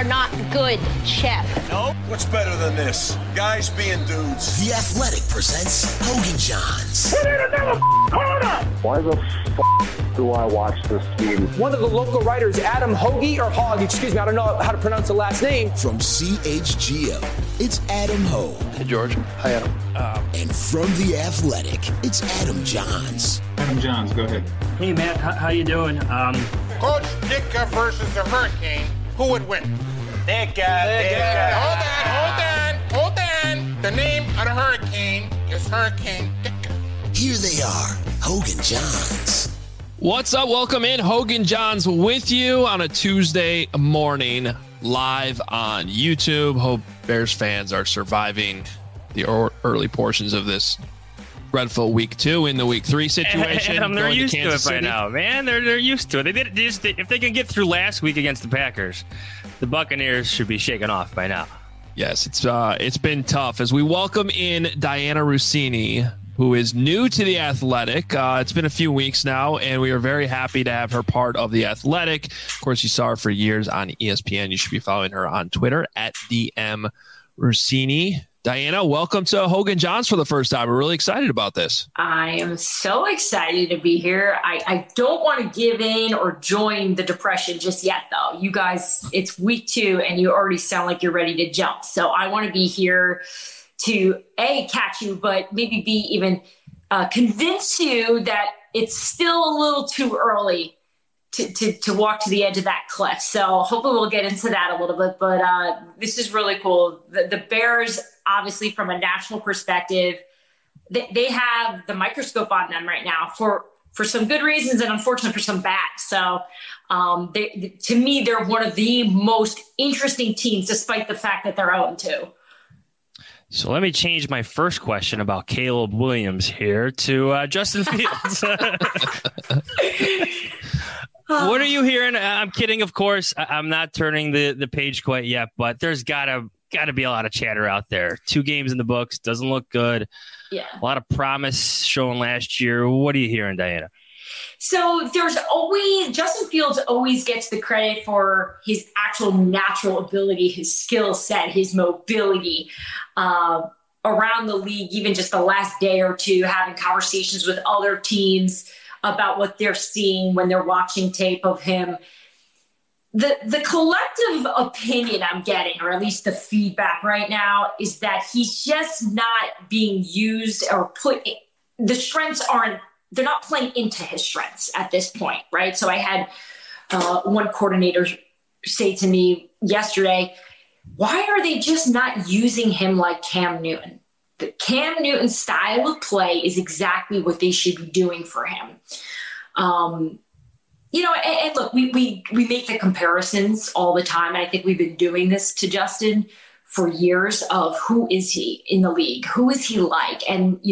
are not good, Chef. No? What's better than this? Guys being dudes. The Athletic presents Hogan Johns. We need another corner! Why the do I watch this game? One of the local writers, Adam Hoagie, or Hogg, excuse me, I don't know how to pronounce the last name. From CHGO, it's Adam Hogue. Hey, George. Hi, Adam. And from The Athletic, it's Adam Johns. Adam Johns, go ahead. Hey, Matt, how you doing? Coach Ditka versus the Hurricane, who would win? Ditka. Hold on. The name of the Hurricane is Hurricane Ditka. Here they are, Hogan Johns. What's up? Welcome in. Hogan Johns with you on a Tuesday morning, live on YouTube. Hope Bears fans are surviving the early portions of this dreadful week 2 in the week 3 situation. They're used to it by now, man. They're used to it. If they can get through last week against the Packers, the Buccaneers should be shaken off by now. Yes, it's been tough as we welcome in Diana Russini, who is new to The Athletic. It's been a few weeks now, and we are very happy to have her part of The Athletic. Of course, you saw her for years on ESPN. You should be following her on Twitter at DM Russini. Diana, welcome to Hogan Johns for the first time. We're really excited about this. I am so excited to be here. I don't want to give in or join the depression just yet, though. You guys, it's week 2, and you already sound like you're ready to jump. So I want to be here to catch you, but maybe be even convince you that it's still a little too early to walk to the edge of that cliff. So hopefully we'll get into that a little bit, but this is really cool. The Bears, obviously from a national perspective, they have the microscope on them right now for some good reasons and unfortunately for some bad. So to me, they're one of the most interesting teams, despite the fact that they're 0-2. So let me change my first question about Caleb Williams here to Justin Fields. What are you hearing? I'm kidding, of course. I'm not turning the page quite yet, but there's gotta be a lot of chatter out there. 2 games in the books, doesn't look good. Yeah, a lot of promise shown last year. What are you hearing, Diana? So Justin Fields always gets the credit for his actual natural ability, his skill set, his mobility around the league, even just the last day or two, having conversations with other teams about what they're seeing when they're watching tape of him. The collective opinion I'm getting, or at least the feedback right now, is that he's just not being used or the strengths they're not playing into his strengths at this point, right? So I had one coordinator say to me yesterday, why are they just not using him like Cam Newton? The Cam Newton style of play is exactly what they should be doing for him. And look, we make the comparisons all the time. And I think we've been doing this to Justin for years of who is he in the league? Who is he like? And,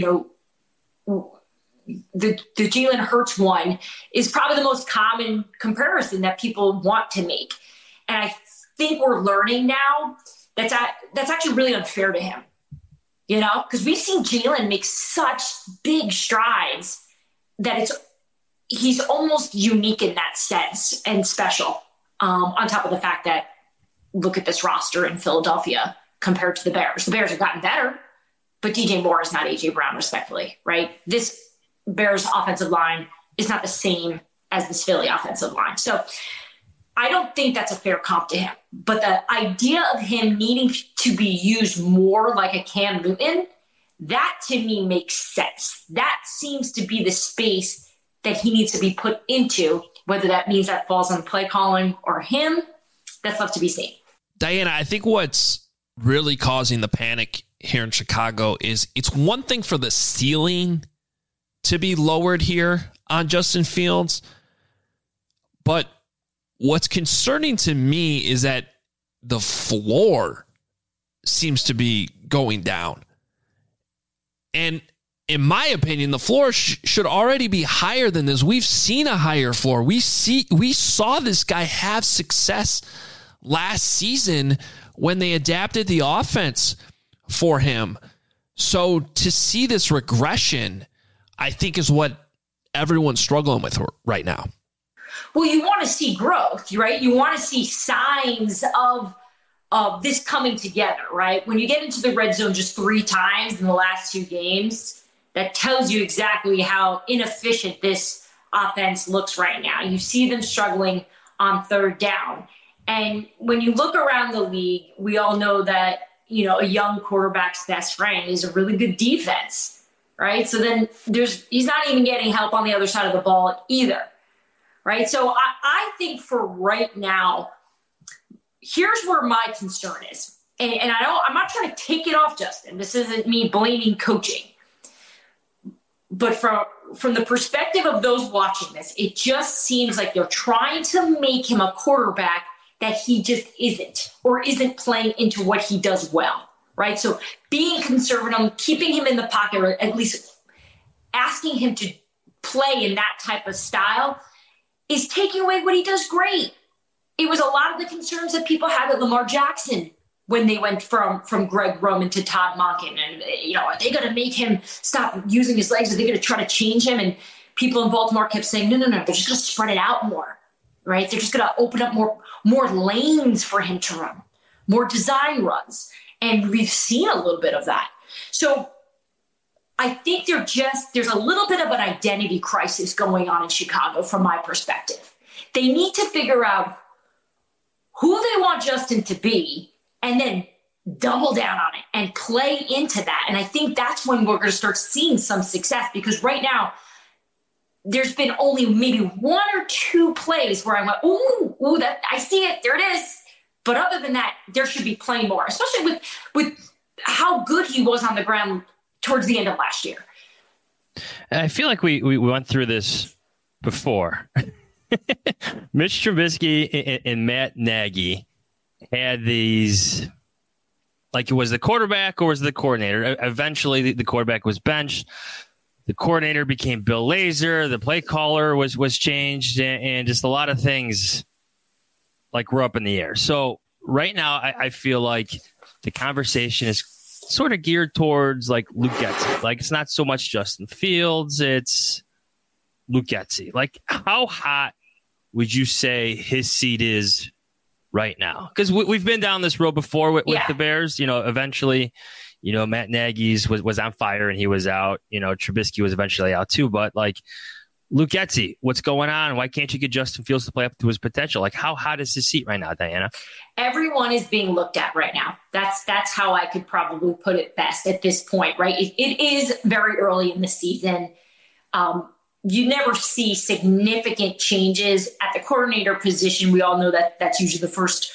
the Jalen Hurts one is probably the most common comparison that people want to make. And I think we're learning now that's actually really unfair to him, because we've seen Jalen make such big strides that he's almost unique in that sense and special. On top of the fact that look at this roster in Philadelphia compared to the Bears. The Bears have gotten better, but DJ Moore is not A.J. Brown, respectfully, right? This Bears offensive line is not the same as this Philly offensive line. So I don't think that's a fair comp to him. But the idea of him needing to be used more like a Cam Newton, that to me makes sense. That seems to be the space that he needs to be put into, whether that means that falls on play calling or him, that's left to be seen. Diana, I think what's really causing the panic here in Chicago is it's one thing for the ceiling to be lowered here on Justin Fields, but what's concerning to me is that the floor seems to be going down. And in my opinion, the floor should already be higher than this. We've seen a higher floor. We saw this guy have success last season when they adapted the offense for him. So to see this regression, I think, is what everyone's struggling with right now. Well, you want to see growth, right? You want to see signs of of this coming together, right? When you get into the red zone just 3 times in the last 2 games, that tells you exactly how inefficient this offense looks right now. You see them struggling on 3rd down. And when you look around the league, we all know that, a young quarterback's best friend is a really good defense, right? So then he's not even getting help on the other side of the ball either, right? So I think for right now, here's where my concern is. And I'm not trying to take it off Justin. This isn't me blaming coaching. But from the perspective of those watching this, it just seems like they're trying to make him a quarterback that he just isn't, or isn't playing into what he does well, right? So being conservative, keeping him in the pocket, or at least asking him to play in that type of style, is taking away what he does great. It was a lot of the concerns that people had with Lamar Jackson when they went from Greg Roman to Todd Monken. And, are they going to make him stop using his legs? Are they going to try to change him? And people in Baltimore kept saying, no, they're just going to spread it out more, right? They're just going to open up more lanes for him to run, more design runs. And we've seen a little bit of that. So I think there's a little bit of an identity crisis going on in Chicago from my perspective. They need to figure out who they want Justin to be, and then double down on it and play into that. And I think that's when we're going to start seeing some success, because right now there's been only maybe 1 or 2 plays where I went, ooh, that I see it. There it is. But other than that, there should be playing more, especially with how good he was on the ground towards the end of last year. I feel like we went through this before. Mitch Trubisky and Matt Nagy had these, like, it was the quarterback or was the coordinator. Eventually, the quarterback was benched. The coordinator became Bill Lazor. The play caller was changed, and just a lot of things were up in the air. So right now, I feel like the conversation is sort of geared towards Luke Getsy. It's not so much Justin Fields, it's Luke Getsy. How hot would you say his seat is right now? Because we've been down this road before with the Bears. Eventually, Matt Nagy's was on fire and he was out. Trubisky was eventually out too. But Luke Getsy, what's going on? Why can't you get Justin Fields to play up to his potential? How hot is his seat right now, Diana? Everyone is being looked at right now. That's how I could probably put it best at this point, right? It is very early in the season. You never see significant changes at the coordinator position. We all know that that's usually the first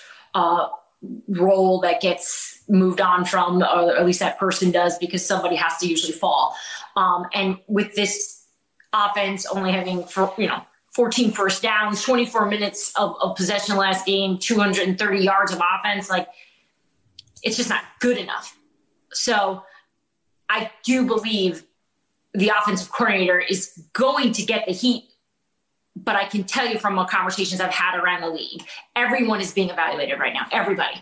role that gets moved on from, or at least that person does, because somebody has to usually fall. And with this offense only having 14 first downs, 24 minutes of possession last game, 230 yards of offense, it's just not good enough. So I do believe the offensive coordinator is going to get the heat, but I can tell you from the conversations I've had around the league, everyone is being evaluated right now, everybody.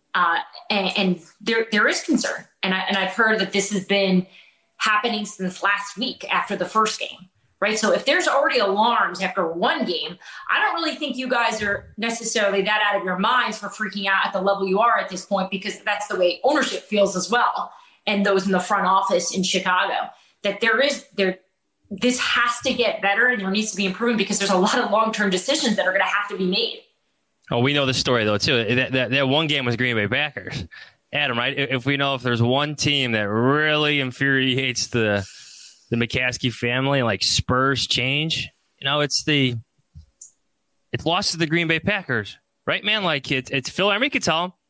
And there is concern. And I've heard that this has been happening since last week after the first game, right? So if there's already alarms after one game, I don't really think you guys are necessarily that out of your minds for freaking out at the level you are at this point, because that's the way ownership feels as well. And those in the front office in Chicago, that this has to get better and there needs to be improvement, because there's a lot of long-term decisions that are going to have to be made. Oh, we know the story though too. That one game was Green Bay Packers, Adam. Right? If there's one team that really infuriates the McCaskey family, like Spurs change, it's lost to the Green Bay Packers, right, man? It's Phil Emery could tell him.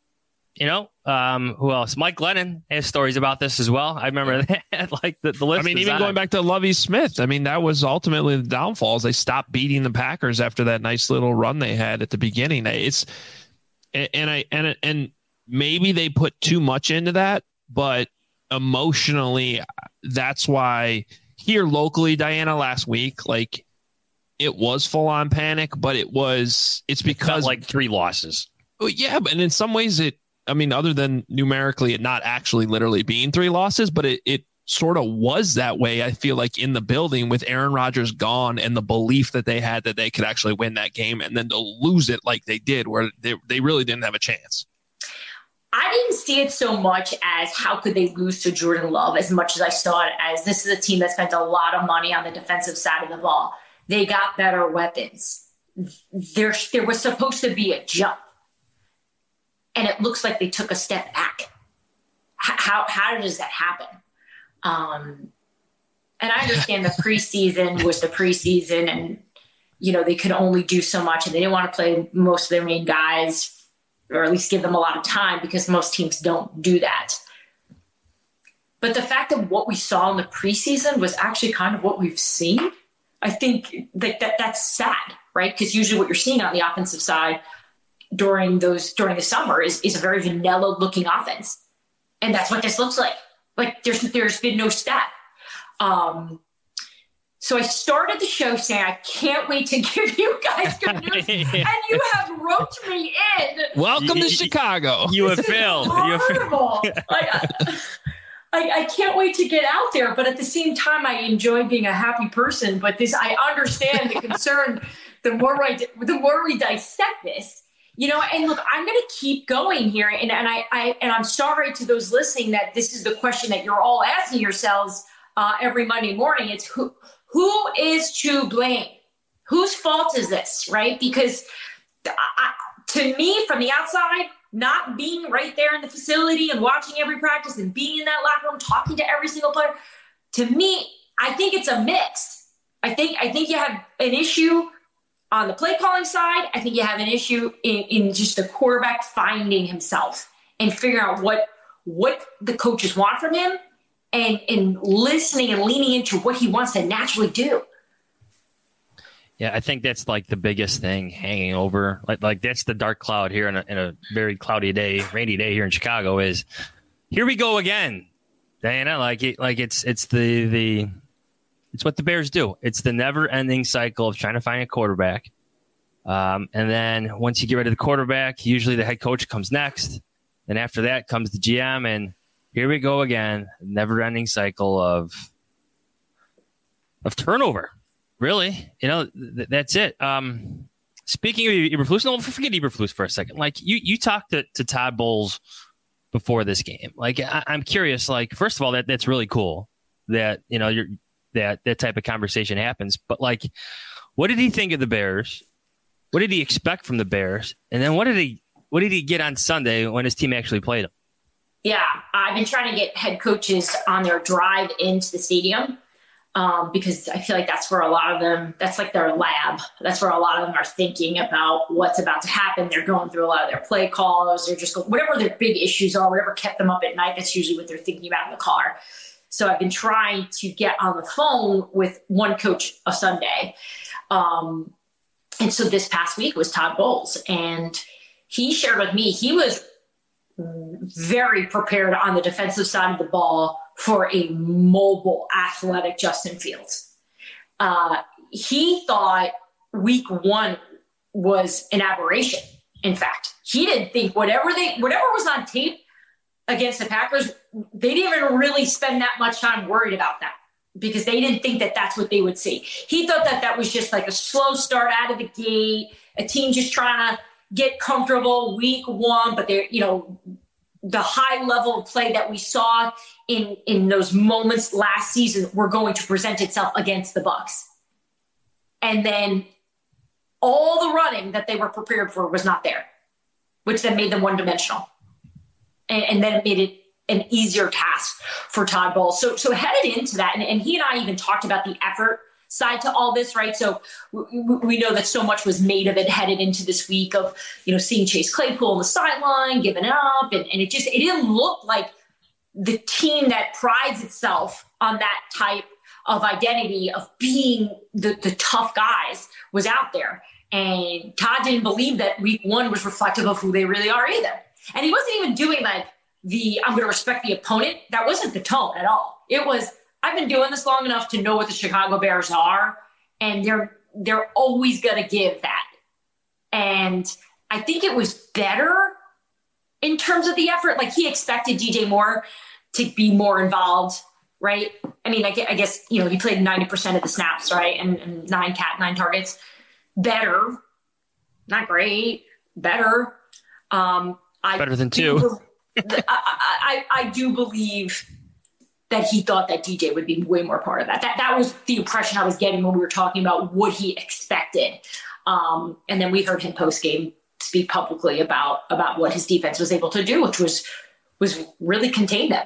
Who else? Mike Glennon has stories about this as well. I remember that. The list. Even going back to Lovie Smith, that was ultimately the downfalls. They stopped beating the Packers after that nice little run they had at the beginning. And maybe they put too much into that, but emotionally, that's why here locally, Diana, last week, it was full on panic, but it's because 3 losses. Yeah, but in some ways other than numerically it not actually literally being 3 losses, but it sort of was that way, I feel like, in the building with Aaron Rodgers gone and the belief that they had that they could actually win that game, and then to lose it like they did, where they really didn't have a chance. I didn't see it so much as how could they lose to Jordan Love as much as I saw it as this is a team that spent a lot of money on the defensive side of the ball. They got better weapons. There was supposed to be a jump, and it looks like they took a step back. How does that happen? And I understand the preseason was the preseason, and they could only do so much, and they didn't want to play most of their main guys, or at least give them a lot of time because most teams don't do that. But the fact that what we saw in the preseason was actually kind of what we've seen, I think that's sad, right? Because usually what you're seeing on the offensive side during the summer is a very vanilla looking offense. And that's what this looks like. Like there's been no step. So I started the show saying, I can't wait to give you guys good news. And you have roped me in. Welcome to Chicago. You have failed. I can't wait to get out there. But at the same time, I enjoy being a happy person. But I understand the concern the more we dissect this. And look, I'm going to keep going here. And I'm sorry to those listening that this is the question that you're all asking yourselves every Monday morning. It's who is to blame? Whose fault is this, right? Because to me, from the outside, not being right there in the facility and watching every practice and being in that locker room, talking to every single player, to me, I think it's a mix. I think you have an issue on the play calling side. I think you have an issue in just the quarterback finding himself and figuring out what the coaches want from him. And listening and leaning into what he wants to naturally do. Yeah, I think that's like the biggest thing hanging over. Like that's the dark cloud here in a very cloudy day, rainy day here in Chicago. Is here we go again, Diana. It's what the Bears do. It's the never-ending cycle of trying to find a quarterback, and then once you get rid of the quarterback, usually the head coach comes next. Then after that comes the GM and here we go again, never-ending cycle of turnover. Really, that's it. Speaking of Eberflus, no, forget Eberflus for a second. Like you talked to Todd Bowles before this game. Like I'm curious. Like first of all, that's really cool that that type of conversation happens. But like, what did he think of the Bears? What did he expect from the Bears? And then what did he get on Sunday when his team actually played him? Yeah, I've been trying to get head coaches on their drive into the stadium because I feel like that's where a lot of them, that's like their lab. That's where a lot of them are thinking about what's about to happen. They're going through a lot of their play calls. They're just whatever their big issues are, whatever kept them up at night, that's usually what they're thinking about in the car. So I've been trying to get on the phone with one coach a Sunday. And so this past week was Todd Bowles. And he shared with me, he was very prepared on the defensive side of the ball for a mobile, athletic Justin Fields. He thought week one was an aberration. In fact, he didn't think whatever was on tape against the Packers, they didn't even really spend that much time worried about that because they didn't think that that's what they would see. He thought that was just like a slow start out of the gate, a team just trying to get comfortable week one, but they're, the high level of play that we saw in those moments last season were going to present itself against the Bucs. And then all the running that they were prepared for was not there, which then made them one-dimensional. And then it made it an easier task for Todd Bowles. So headed into that, and he and I even talked about the effort side to all this, right? So we know that so much was made of it headed into this week of, seeing Chase Claypool on the sideline, giving up. And it didn't look like the team that prides itself on that type of identity of being the tough guys was out there. And Todd didn't believe that week one was reflective of who they really are either. And he wasn't even doing like I'm going to respect the opponent. That wasn't the tone at all. It was, I've been doing this long enough to know what the Chicago Bears are, and they're always going to give that. And I think it was better in terms of the effort. Like he expected DJ Moore to be more involved, right? I mean, I guess he played 90% of the snaps, right? And 9 targets. Better, not great, better. Better than 2. I do believe that he thought that DJ would be way more part of that. That was the impression I was getting when we were talking about what he expected. And then we heard him post game speak publicly about what his defense was able to do, which was really contain them.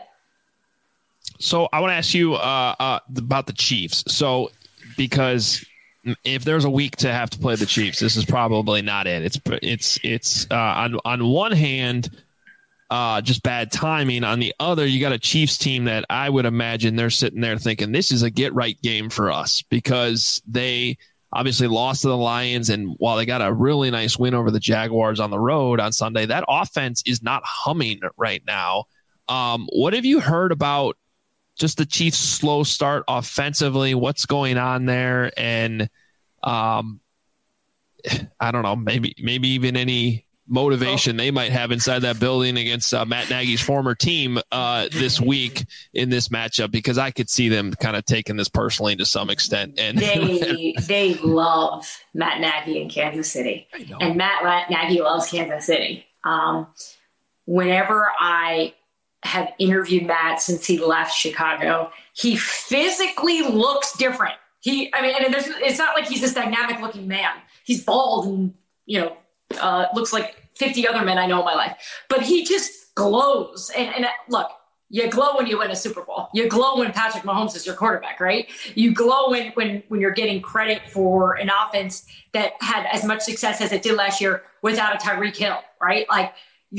So I want to ask you about the Chiefs. So because if there's a week to have to play the Chiefs, this is probably not it. It's on one hand, just bad timing. On the other, you got a Chiefs team that I would imagine they're sitting there thinking this is a get right game for us because they obviously lost to the Lions. And while they got a really nice win over the Jaguars on the road on Sunday, that offense is not humming right now. What have you heard about just the Chiefs' slow start offensively? What's going on there? And I don't know, maybe even any motivation they might have inside that building against Matt Nagy's former team this week in this matchup, because I could see them kind of taking this personally to some extent. And they love Matt Nagy in Kansas City, and Matt Nagy loves Kansas City. Whenever I have interviewed Matt since he left Chicago, he physically looks different. It's not like he's this dynamic looking man. He's bald and, looks like 50 other men I know in my life, but he just glows. And look, you glow when you win a Super Bowl. You glow when Patrick Mahomes is your quarterback, right? You glow when you're getting credit for an offense that had as much success as it did last year without a Tyreek Hill, right? Like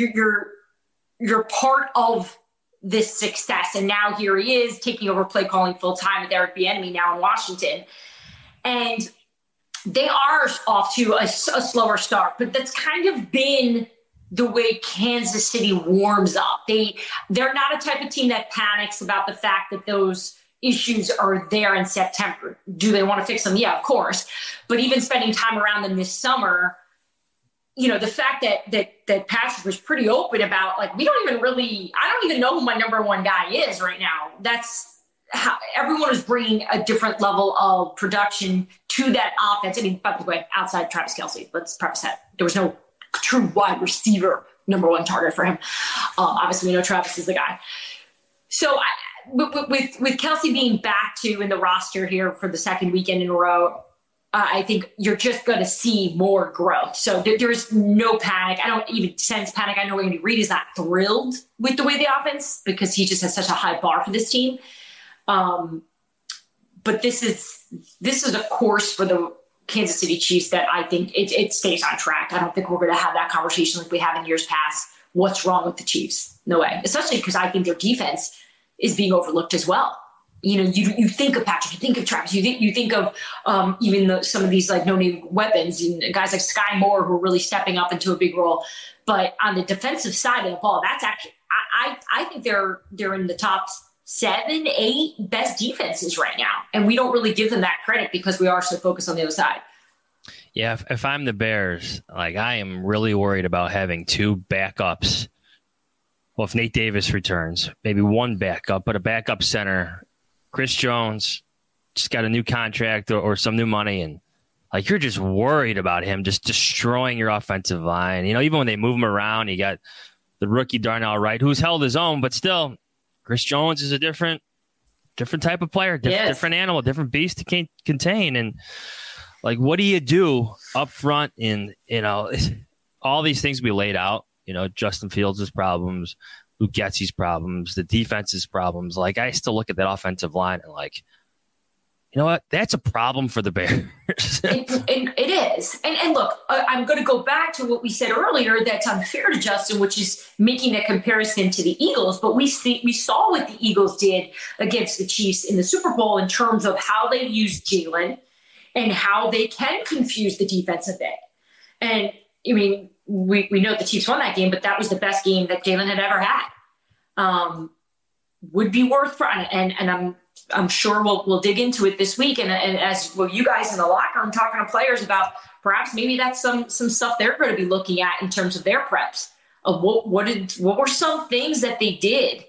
you're part of this success. And now here he is taking over play calling full time with Eric Bieniemy now in Washington. And they are off to a slower start, but that's kind of been the way Kansas City warms up. They're not a type of team that panics about the fact that those issues are there in September. Do they want to fix them? Yeah, of course. But even spending time around them this summer, the fact that Patrick was pretty open about, like, I don't even know who my number one guy is right now. That's how everyone is bringing a different level of production to that offense. I mean, by the way, outside Travis Kelce, let's preface that. There was no true wide receiver number one target for him. Obviously, we know Travis is the guy. So with Kelce being back to in the roster here for the second weekend in a row, I think you're just going to see more growth. So there's no panic. I don't even sense panic. I know Andy Reid is not thrilled with the way the offense, because he just has such a high bar for this team. But this is a course for the Kansas City Chiefs that I think it stays on track. I don't think we're going to have that conversation like we have in years past. What's wrong with the Chiefs? No way. Especially because I think their defense is being overlooked as well. You think of Patrick, you think of Travis, you think of even some of these like no-name weapons and guys like Sky Moore who are really stepping up into a big role. But on the defensive side of the ball, that's actually I think they're in the top 7, 8 best defenses right now, and we don't really give them that credit because we are so focused on the other side. Yeah, if I'm the Bears, like, I am really worried about having 2 backups. Well, if Nate Davis returns, maybe 1 backup, but a backup center. Chris Jones just got a new contract or some new money, and like, you're just worried about him just destroying your offensive line. Even when they move him around, you got the rookie Darnell Wright, who's held his own, but still, Chris Jones is a different type of player, different animal, different beast to contain. And like, what do you do up front in, all these things we laid out, Justin Fields' problems, Luke Getsy's problems, the defense's problems. Like, I still look at that offensive line and like, you know what? That's a problem for the Bears. It is. And look, I'm going to go back to what we said earlier that's unfair to Justin, which is making a comparison to the Eagles. But we saw what the Eagles did against the Chiefs in the Super Bowl in terms of how they used Jalen and how they can confuse the defense a bit. And, I mean, we know the Chiefs won that game, but that was the best game that Jalen had ever had. Would be worth, and I'm sure we'll dig into it this week, and as well, you guys in the locker room talking to players about perhaps maybe that's some stuff they're going to be looking at in terms of their preps of what were some things that they did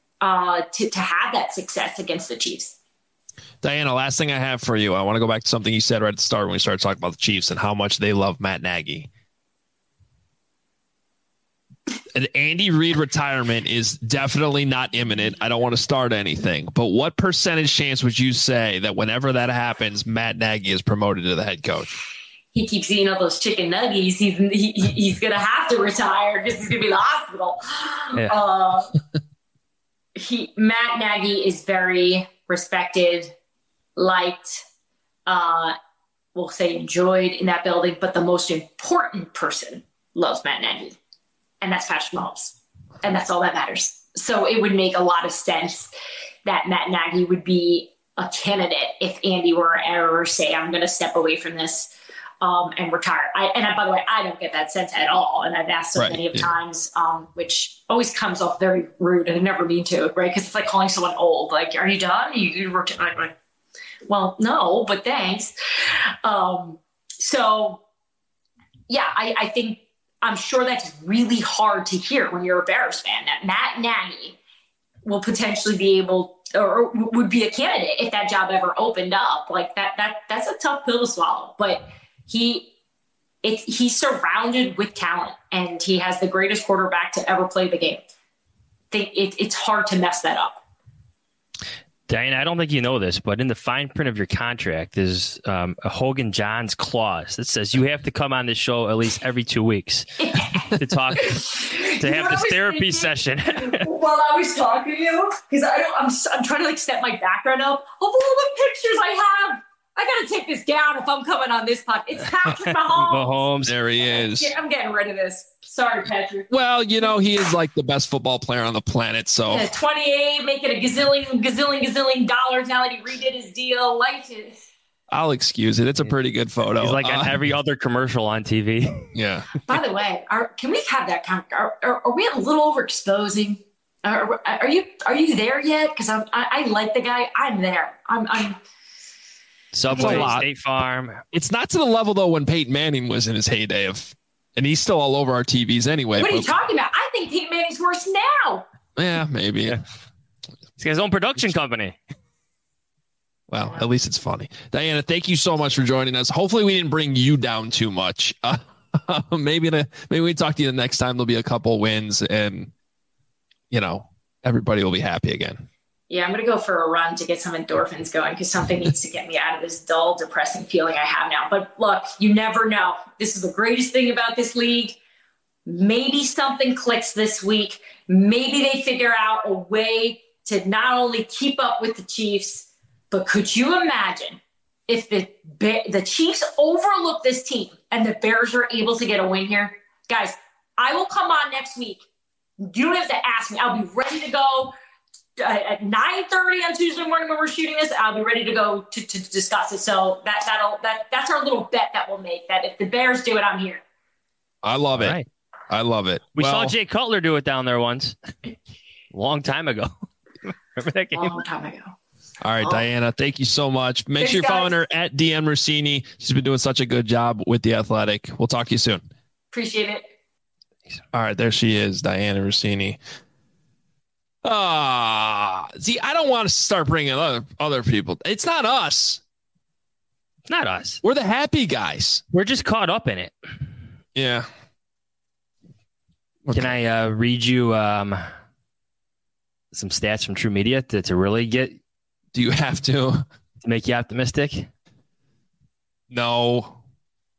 to have that success against the Chiefs. Diana, last thing I have for you, I want to go back to something you said right at the start when we started talking about the Chiefs and how much they love Matt Nagy. an Andy Reid retirement is definitely not imminent. I don't want to start anything, but what percentage chance would you say that whenever that happens, Matt Nagy is promoted to the head coach? He keeps eating all those chicken nuggets. He's going to have to retire because he's going to be in the hospital. Yeah. Matt Nagy is very respected, liked, we'll say enjoyed in that building, but the most important person loves Matt Nagy, and that's Patrick Mahomes. And that's all that matters. So it would make a lot of sense that Matt Nagy would be a candidate if Andy were ever say, I'm going to step away from this and retire. By the way, I don't get that sense at all. And I've asked so many of times, which always comes off very rude, and I never mean to, right? Because it's like calling someone old. Like, are you done? You retire? Well, no, but thanks. So, yeah, I think I'm sure that's really hard to hear when you're a Bears fan, that Matt Nagy will potentially be able or would be a candidate if that job ever opened up. Like that's a tough pill to swallow, but he's surrounded with talent, and he has the greatest quarterback to ever play the game. It's hard to mess that up. Diana, I don't think you know this, but in the fine print of your contract, there's a Hogan Johns clause that says you have to come on this show at least every 2 weeks to talk, to have this therapy session. While I was talking to you, because I'm trying to like set my background up of all the pictures I have. I got to take this down if I'm coming on this podcast. It's Patrick Mahomes. Mahomes, there he is. I'm getting rid of this. Sorry, Patrick. Well, he is like the best football player on the planet. So 28, making a gazillion dollars now that he redid his deal. Life is. I'll excuse it. It's a pretty good photo. He's like on every other commercial on TV. Yeah. By the way, can we have that? Are we a little overexposing? Are you there yet? Because I like the guy. I'm there. I'm. Subway, State Farm. It's not to the level though when Peyton Manning was in his heyday and he's still all over our TVs anyway. What are you talking about? I think Peyton Manning's worse now. Yeah, maybe. Yeah. He's got his own production company. Well, at least it's funny. Diana, thank you so much for joining us. Hopefully we didn't bring you down too much. Maybe we talk to you the next time. There'll be a couple wins and everybody will be happy again. Yeah, I'm going to go for a run to get some endorphins going because something needs to get me out of this dull, depressing feeling I have now. But look, you never know. This is the greatest thing about this league. Maybe something clicks this week. Maybe they figure out a way to not only keep up with the Chiefs, but could you imagine if the Chiefs overlook this team and the Bears are able to get a win here? Guys, I will come on next week. You don't have to ask me. I'll be ready to go. At 9:30 on Tuesday morning when we're shooting this, I'll be ready to go to discuss it. So that's our little bet that we'll make, that if the Bears do it, I'm here. I love it. Right. I love it. We saw Jay Cutler do it down there once. Long time ago. Remember that game? Long time ago. All right, Diana, thank you so much. Make sure you're following her at DM Rossini. She's been doing such a good job with The Athletic. We'll talk to you soon. Appreciate it. All right, there she is, Diana Rossini. See, I don't want to start bringing other people. It's not us. It's not us. We're the happy guys. We're just caught up in it. Yeah. Okay. Can I read you some stats from True Media to really get? Do you have to make you optimistic? No.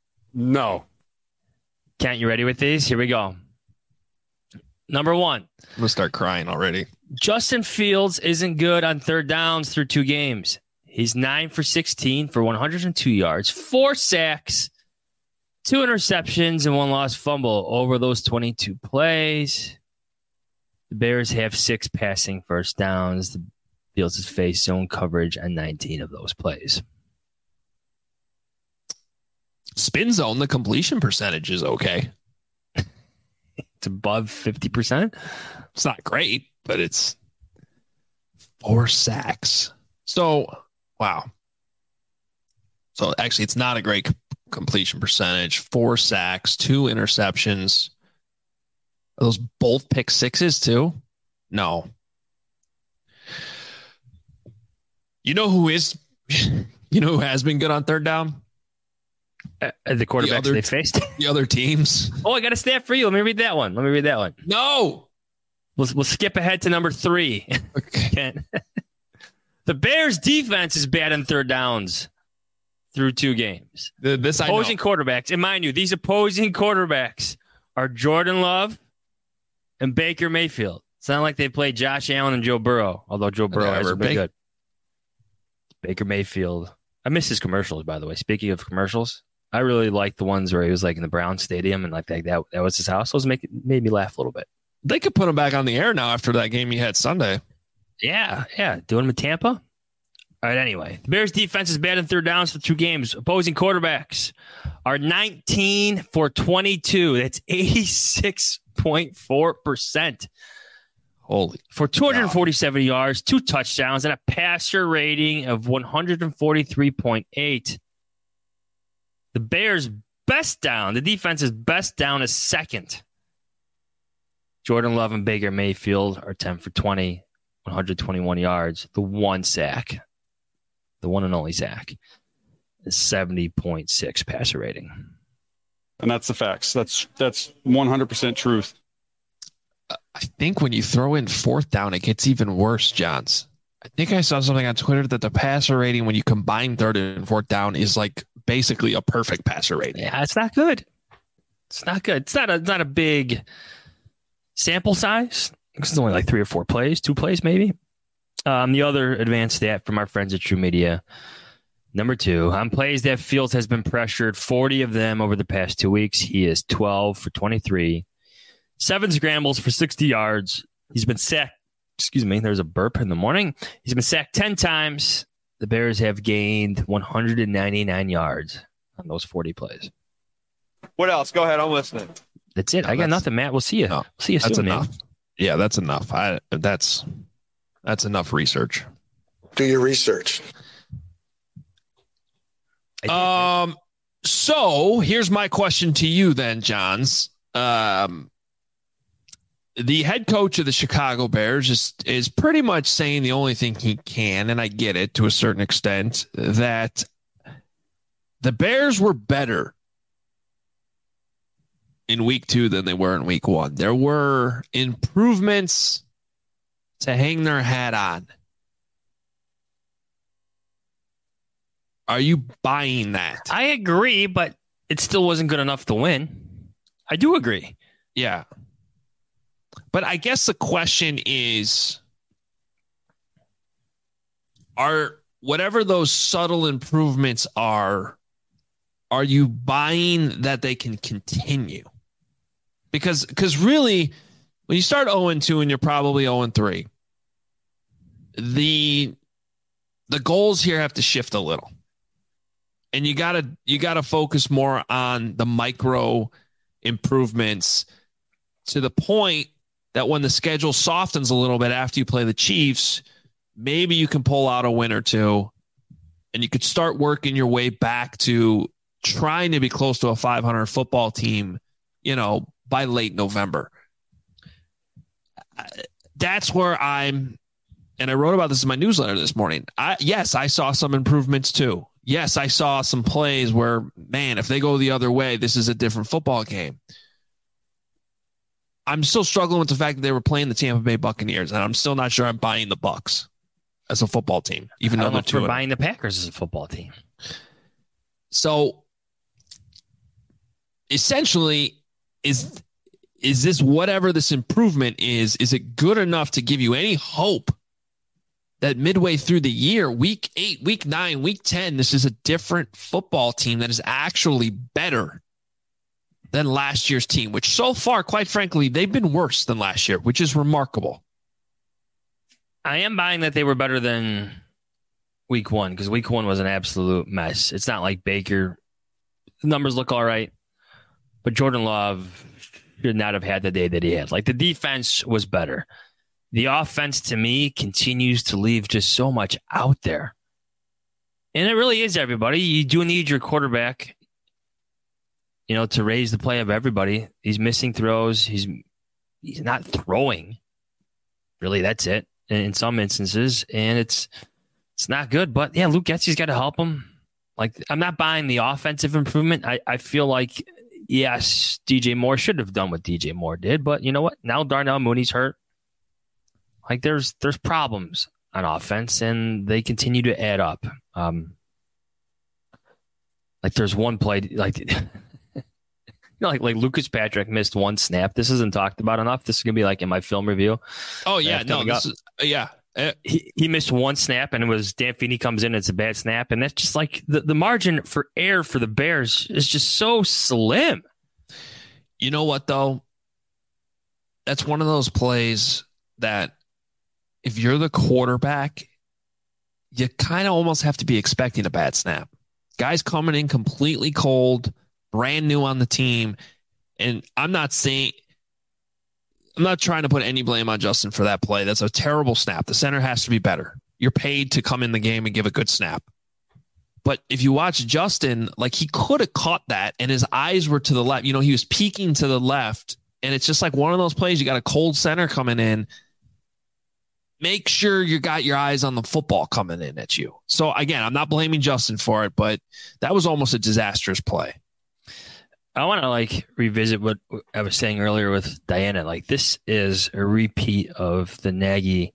Kent, you ready with these? Here we go. Number 1. I'm going to start crying already. Justin Fields isn't good on third downs through 2 games. He's 9 for 16 for 102 yards, 4 sacks, 2 interceptions, and 1 lost fumble over those 22 plays. The Bears have 6 passing first downs. The Fields has faced zone coverage on 19 of those plays. Spin zone, the completion percentage is okay. It's above 50%. It's not great, but it's 4 sacks. So, wow. So, actually, it's not a great completion percentage. 4 sacks, 2 interceptions. Are those both pick sixes, too? No. You know who has been good on third down? The quarterbacks they faced. The other teams. Oh, I got a stat for you. Let me read that one. No. We'll skip ahead to number 3. Okay. The Bears' defense is bad in third downs through 2 games. This opposing quarterbacks, and mind you, these opposing quarterbacks are Jordan Love and Baker Mayfield. It's not like they played Josh Allen and Joe Burrow, although Joe Burrow has been good. Baker Mayfield. I miss his commercials, by the way. Speaking of commercials, I really like the ones where he was like in the Brown Stadium and like that was his house. Those made me laugh a little bit. They could put him back on the air now after that game he had Sunday. Yeah. Doing him in Tampa. All right, anyway. The Bears' defense is bad in third downs for 2 games. Opposing quarterbacks are 19 for 22. That's 86.4%. Holy. For 247 yards, 2 touchdowns, and a passer rating of 143.8. The Bears' best down, the defense's best down is second. Jordan Love and Baker Mayfield are 10 for 20, 121 yards. The one sack, the one and only sack, is 70.6 passer rating. And that's the facts. That's 100% truth. I think when you throw in fourth down, it gets even worse, Johns. I think I saw something on Twitter that the passer rating when you combine third and fourth down is like basically a perfect passer rating. Yeah, it's not good. It's not good. It's not a big sample size. It's only like 3 or 4 plays, 2 plays maybe. The other advanced stat from our friends at True Media, number 2, on plays that Fields has been pressured, 40 of them over the past 2 weeks. He is 12 for 23. 7 scrambles for 60 yards. He's been sacked. Excuse me, there's a burp in the morning. He's been sacked 10 times. The Bears have gained 199 yards on those 40 plays. What else? Go ahead. I'm listening. That's it. I got nothing, Matt. We'll see you. No, see you soon, that's enough. Man. Yeah, that's enough. That's enough research. Do your research. So here's my question to you then, Johns. The head coach of the Chicago Bears is pretty much saying the only thing he can, and I get it to a certain extent, that the Bears were better in week 2 than they were in week 1. There were improvements to hang their hat on. Are you buying that? I agree, but it still wasn't good enough to win. I do agree. Yeah. But I guess the question is, are whatever those subtle improvements are you buying that they can continue? Because really, when you start 0-2 and you're probably 0-3, the goals here have to shift a little. And you gotta focus more on the micro improvements to the point that when the schedule softens a little bit after you play the Chiefs, maybe you can pull out a win or 2 and you could start working your way back to trying to be close to a 500 football team, by late November. That's where and I wrote about this in my newsletter this morning. Yes, I saw some improvements too. Yes, I saw some plays where, man, if they go the other way, this is a different football game. I'm still struggling with the fact that they were playing the Tampa Bay Buccaneers, and I'm still not sure I'm buying the Bucs as a football team, even though they're 2. Buying the Packers as a football team. So essentially, is this whatever this improvement is it good enough to give you any hope that midway through the year, week 8, week 9, week 10, this is a different football team that is actually better than last year's team, which so far, quite frankly, they've been worse than last year, which is remarkable. I am buying that they were better than week 1 because week 1 was an absolute mess. It's not like Baker. The numbers look all right, but Jordan Love should not have had the day that he had. Like, the defense was better. The offense, to me, continues to leave just so much out there. And it really is, everybody. You do need your quarterback, to raise the play of everybody. He's missing throws. He's not throwing. Really, that's it in some instances. And it's not good. But, yeah, Luke Getsy's got to help him. Like, I'm not buying the offensive improvement. I feel like, yes, DJ Moore should have done what DJ Moore did, but you know what? Now Darnell Mooney's hurt. Like, there's problems on offense, and they continue to add up. Like, there's one play, like, like Lucas Patrick missed one snap. This isn't talked about enough. This is gonna be like in my film review. Oh yeah, no, this is, yeah. He missed one snap, and it was Dan Feeney comes in. It's a bad snap, and that's just like the margin for error for the Bears is just so slim. You know what though? That's one of those plays that if you're the quarterback, you kind of almost have to be expecting a bad snap. Guys coming in completely cold, brand new on the team, and I'm not trying to put any blame on Justin for that play. That's a terrible snap. The center has to be better. You're paid to come in the game and give a good snap. But if you watch Justin, like, he could have caught that and his eyes were to the left. You know, he was peeking to the left, and it's just like one of those plays. You got a cold center coming in. Make sure you got your eyes on the football coming in at you. So again, I'm not blaming Justin for it, but that was almost a disastrous play. I want to revisit what I was saying earlier with Diana. Like, this is a repeat of the Nagy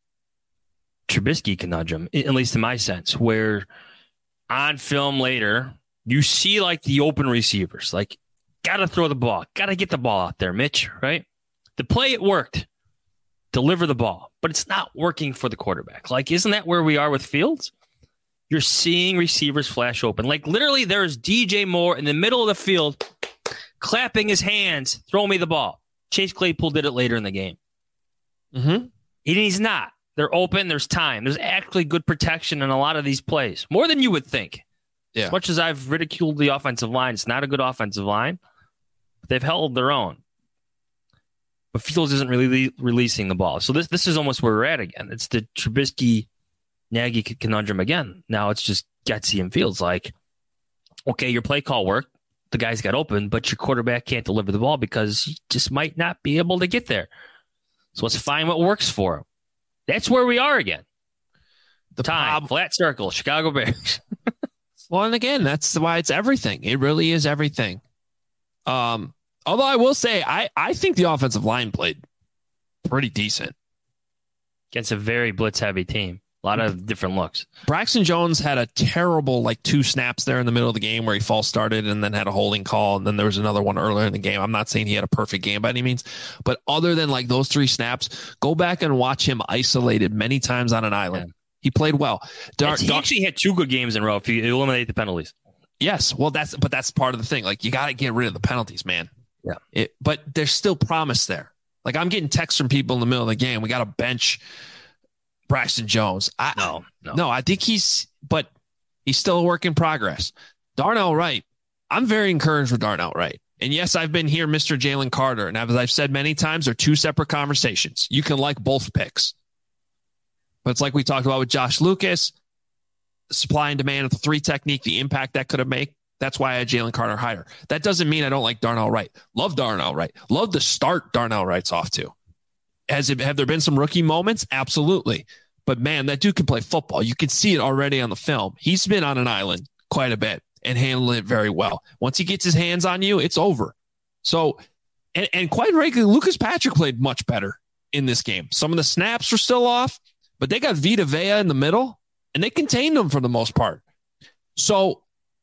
Trubisky conundrum, at least in my sense, where on film later, you see like the open receivers, like, got to throw the ball, got to get the ball out there, Mitch, right? The play, it worked. Deliver the ball, but it's not working for the quarterback. Like, isn't that where we are with Fields? You're seeing receivers flash open. Like, literally, there's DJ Moore in the middle of the field clapping his hands, throw me the ball. Chase Claypool did it later in the game. Mm-hmm. He's not. They're open. There's time. There's actually good protection in a lot of these plays, more than you would think. Yeah. As much as I've ridiculed the offensive line, it's not a good offensive line. But they've held their own. But Fields isn't really releasing the ball. So this is almost where we're at again. It's the Trubisky-Nagy conundrum again. Now it's just Getsy and Fields. Like, okay, your play call worked. The guys got open, but your quarterback can't deliver the ball because he just might not be able to get there. So let's find what works for him. That's where we are again. Flat circle, Chicago Bears. Well, and again, that's why it's everything. It really is everything. Although I will say, I think the offensive line played pretty decent. Against a very blitz-heavy team. A lot of different looks. Braxton Jones had a terrible, 2 snaps there in the middle of the game where he false started and then had a holding call. And then there was another one earlier in the game. I'm not saying he had a perfect game by any means. But other than those 3 snaps, go back and watch him isolated many times on an island. Yeah. He played well. He actually had 2 good games in a row if you eliminate the penalties. Yes. Well, that's part of the thing. You got to get rid of the penalties, man. Yeah. But there's still promise there. I'm getting texts from people in the middle of the game. We got to bench Braxton Jones. No. I think he's still a work in progress. Darnell Wright. I'm very encouraged with Darnell Wright. And yes, I've been here, Mr. Jalen Carter. And as I've said many times, they're 2 separate conversations. You can like both picks. But it's like we talked about with Josh Lucas, supply and demand of the 3 technique, the impact that could have made. That's why I had Jalen Carter higher. That doesn't mean I don't like Darnell Wright. Love Darnell Wright. Love the start Darnell Wright's off to. Have there been some rookie moments? Absolutely. But man, that dude can play football. You can see it already on the film. He's been on an island quite a bit and handled it very well. Once he gets his hands on you, it's over. So, and quite frankly, Lucas Patrick played much better in this game. Some of the snaps were still off, but they got Vita Vea in the middle and they contained him for the most part. So,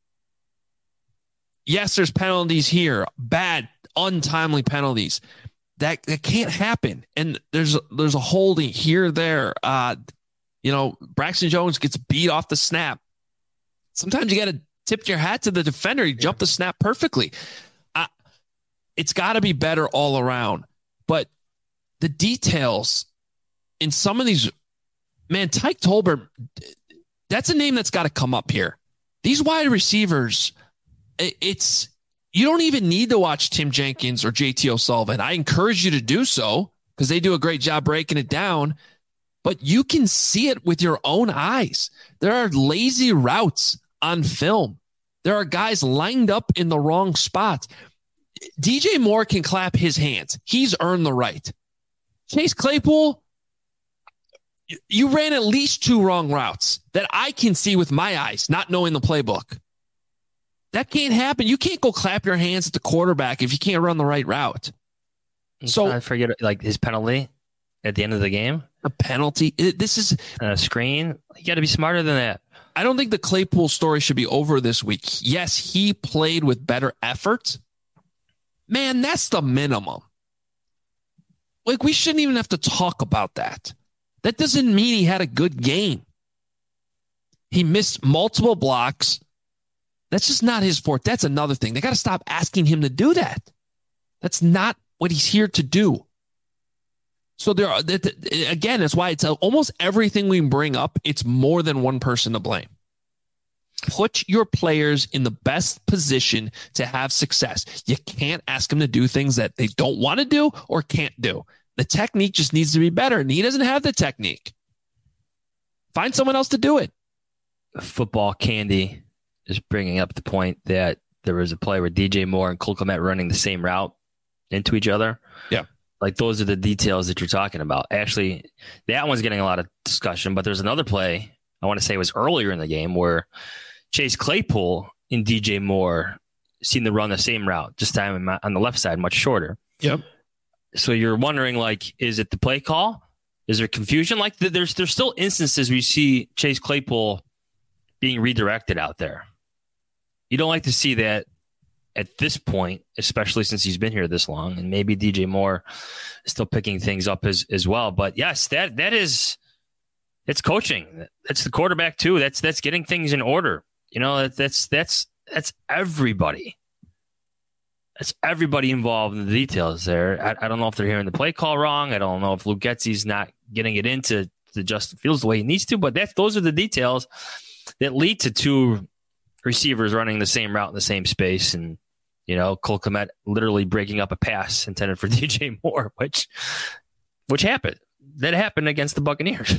yes, there's penalties here, bad, untimely penalties. That can't happen. And there's a holding here, there. Braxton Jones gets beat off the snap. Sometimes you got to tip your hat to the defender. He jumped the snap perfectly. It's got to be better all around. But the details in some of these, man, Tyke Tolbert, that's a name that's got to come up here. These wide receivers, you don't even need to watch Tim Jenkins or JT O'Sullivan. I encourage you to do so because they do a great job breaking it down, but you can see it with your own eyes. There are lazy routes on film. There are guys lined up in the wrong spots. DJ Moore can clap his hands. He's earned the right. Chase Claypool, You ran at least 2 wrong routes that I can see with my eyes, not knowing the playbook. That can't happen. You can't go clap your hands at the quarterback if you can't run the right route. So I forget like his penalty at the end of the game. A penalty. This is a screen. You got to be smarter than that. I don't think the Claypool story should be over this week. Yes, he played with better effort. Man, that's the minimum. Like, we shouldn't even have to talk about that. That doesn't mean he had a good game. He missed multiple blocks. That's just not his forte. That's another thing. They got to stop asking him to do that. That's not what he's here to do. So there are, again, that's why it's almost everything we bring up, it's more than one person to blame. Put your players in the best position to have success. You can't ask them to do things that they don't want to do or can't do. The technique just needs to be better, and he doesn't have the technique. Find someone else to do it. Football Candy is bringing up the point that there was a play where DJ Moore and Cole Kmet running the same route into each other. Yeah. Like, those are the details that you're talking about. Actually, that one's getting a lot of discussion, but there's another play, I want to say it was earlier in the game, where Chase Claypool and DJ Moore seem to run the same route, just time on the left side, much shorter. Yep. So you're wondering, like, is it the play call? Is there confusion? Like, there's still instances where you see Chase Claypool being redirected out there. You don't like to see that at this point, especially since he's been here this long, and maybe DJ Moore is still picking things up as well. But yes, it's coaching. That's the quarterback too. That's getting things in order. You know, that's everybody. That's everybody involved in the details there. I don't know if they're hearing the play call wrong. I don't know if Luke Getsy's not getting it into Justin Fields the way he needs to, but those are the details that lead to 2 receivers running the same route in the same space. And, you know, Cole Kmet literally breaking up a pass intended for DJ Moore, which happened. That happened against the Buccaneers.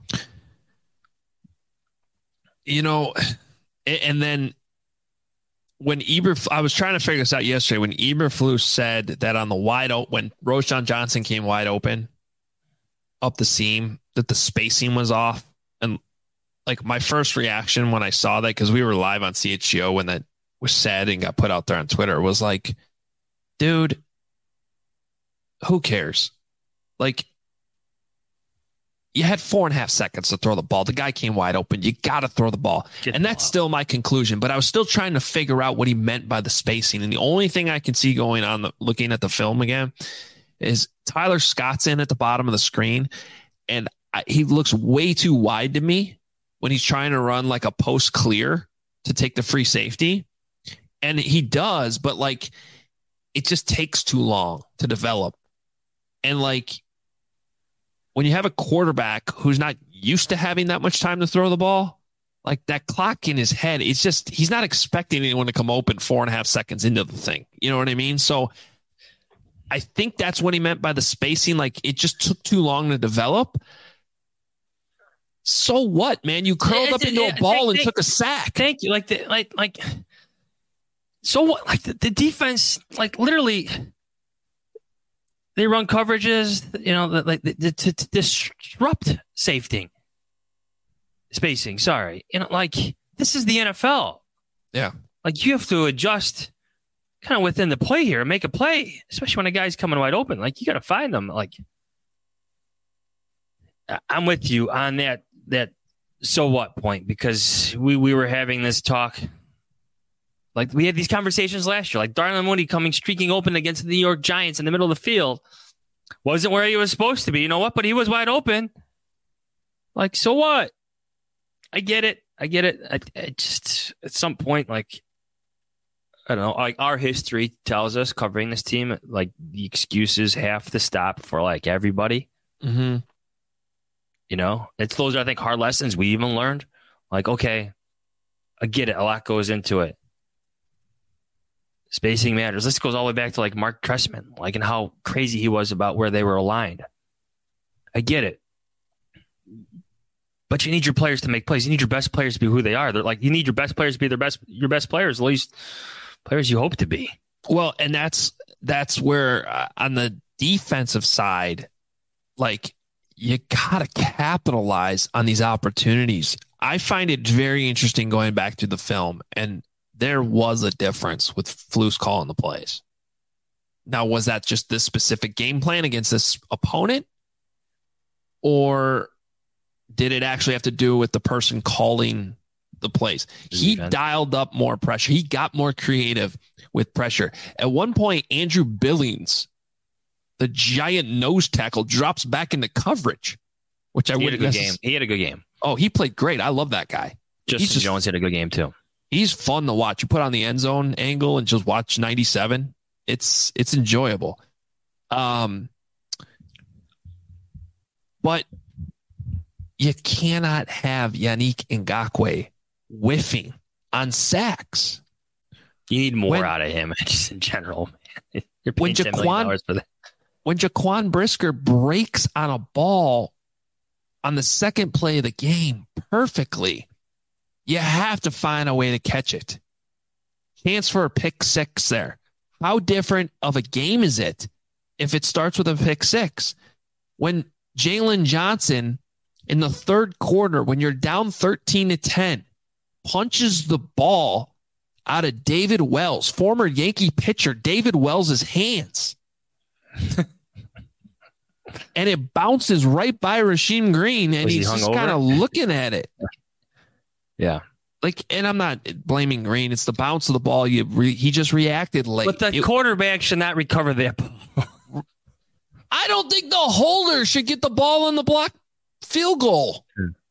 You know, and then when I was trying to figure this out yesterday, when Eberflus said that on the wide open, when Roschon Johnson came wide open up the seam, that the spacing was off. And like, my first reaction when I saw that, because we were live on CHGO when that was said and got put out there on Twitter, was like, dude, who cares? Like, you had 4.5 seconds to throw the ball. The guy came wide open. You got to throw the ball. That's still my conclusion. But I was still trying to figure out what he meant by the spacing. And the only thing I can see going on, looking at the film again, is Tyler Scott's in at the bottom of the screen. And he looks way too wide to me when he's trying to run like a post clear to take the free safety. And he does, but like, it just takes too long to develop. And like, when you have a quarterback who's not used to having that much time to throw the ball, like, that clock in his head, it's just, he's not expecting anyone to come open 4.5 seconds into the thing. You know what I mean? So I think that's what he meant by the spacing. Like, it just took too long to develop. So what, man? You curled up into a ball and took a sack. Thank you. Like, so what? Like, the defense, like, literally, they run coverages, you know, to disrupt spacing. Sorry. You know, like, this is the NFL. Yeah. Like, you have to adjust kind of within the play here and make a play, especially when a guy's coming wide open. Like, you got to find them. Like, I'm with you on that so what point, because we were having this talk. Like, we had these conversations last year, like Darnell Mooney streaking open against the New York Giants in the middle of the field. Wasn't where he was supposed to be. You know what? But he was wide open. Like, so what? I get it. I just, at some point, like, I don't know, like, our history tells us, covering this team, like, the excuses have to stop for, like, everybody. Mm-hmm. You know, those are, I think, hard lessons we even learned. Like, okay, I get it. A lot goes into it. Spacing matters. This goes all the way back to, like, Mark Trestman, like, and how crazy he was about where they were aligned. I get it. But you need your players to make plays. You need your best players to be who they are. They're like, you need your best players to be your best players, at least players you hope to be. Well, and that's where on the defensive side, like, you got to capitalize on these opportunities. I find it very interesting going back to the film, and there was a difference with Flus calling the plays. Now, was that just this specific game plan against this opponent? Or did it actually have to do with the person calling the plays? He dialed up more pressure. He got more creative with pressure. At one point, Andrew Billings, the giant nose tackle, drops back into coverage, which I wouldn't game. He had a good game. Oh, he played great. I love that guy. Justin Jones had a good game too. He's fun to watch. You put on the end zone angle and just watch 97. It's enjoyable. But you cannot have Yannick Ngakoue whiffing on sacks. You need more out of him, just in general. Man. You're paying $10 million for that. When Jaquan Brisker breaks on a ball on the second play of the game perfectly, you have to find a way to catch it. Chance for a pick six there. How different of a game is it if it starts with a pick six? When Jalen Johnson in the third quarter, when you're down 13-10, punches the ball out of David Wells, former Yankee pitcher David Wells' hands. And it bounces right by Rasheem Green, and he's just kind of looking at it. Yeah. And I'm not blaming Green. It's the bounce of the ball. He just reacted late. But the quarterback should not recover that ball. I don't think the holder should get the ball in the block field goal.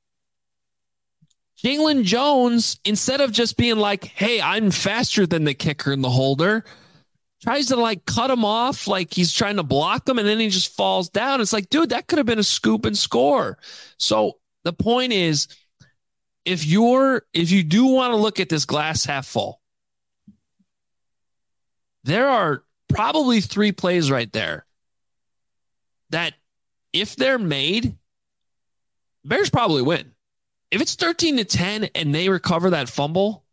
Jalen Jones, instead of just being like, hey, I'm faster than the kicker and the holder, tries to cut him off like he's trying to block him, and then he just falls down. It's like, dude, that could have been a scoop and score. So the point is, if you do want to look at this glass half full, there are probably 3 plays right there that if they're made, Bears probably win. If it's 13-10 and they recover that fumble,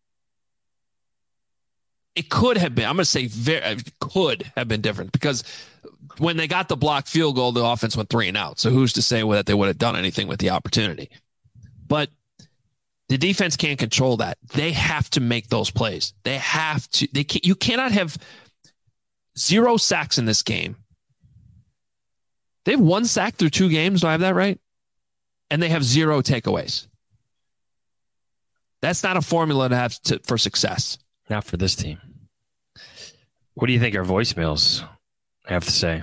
it could have been, I'm going to say could have been different, because when they got the blocked field goal, the offense went 3 and out. So who's to say that they would have done anything with the opportunity? But the defense can't control that. They have to make those plays. They have to. You cannot have 0 sacks in this game. They have 1 sack through 2 games. Do I have that right? And they have 0 takeaways. That's not a formula to have for success. Not for this team. What do you think our voicemails have to say?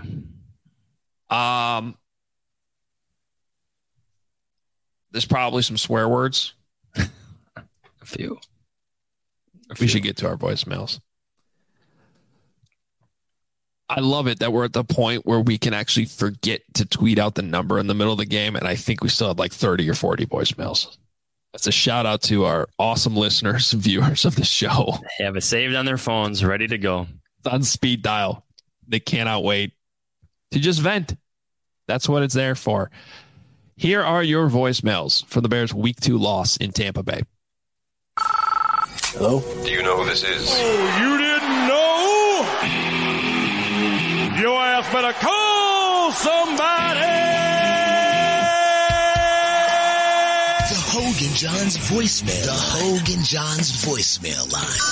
There's probably some swear words. A few. We should get to our voicemails. I love it that we're at the point where we can actually forget to tweet out the number in the middle of the game, and I think we still have 30 or 40 voicemails. That's a shout out to our awesome listeners and viewers of the show. They have it saved on their phones, ready to go. It's on speed dial. They cannot wait to just vent. That's what it's there for. Here are your voicemails for the Bears' Week 2 loss in Tampa Bay. Hello? Do you know who this is? Oh, you didn't know? Your ass better call somebody! The Hogan Johns voicemail. The Hogan Johns voicemail line.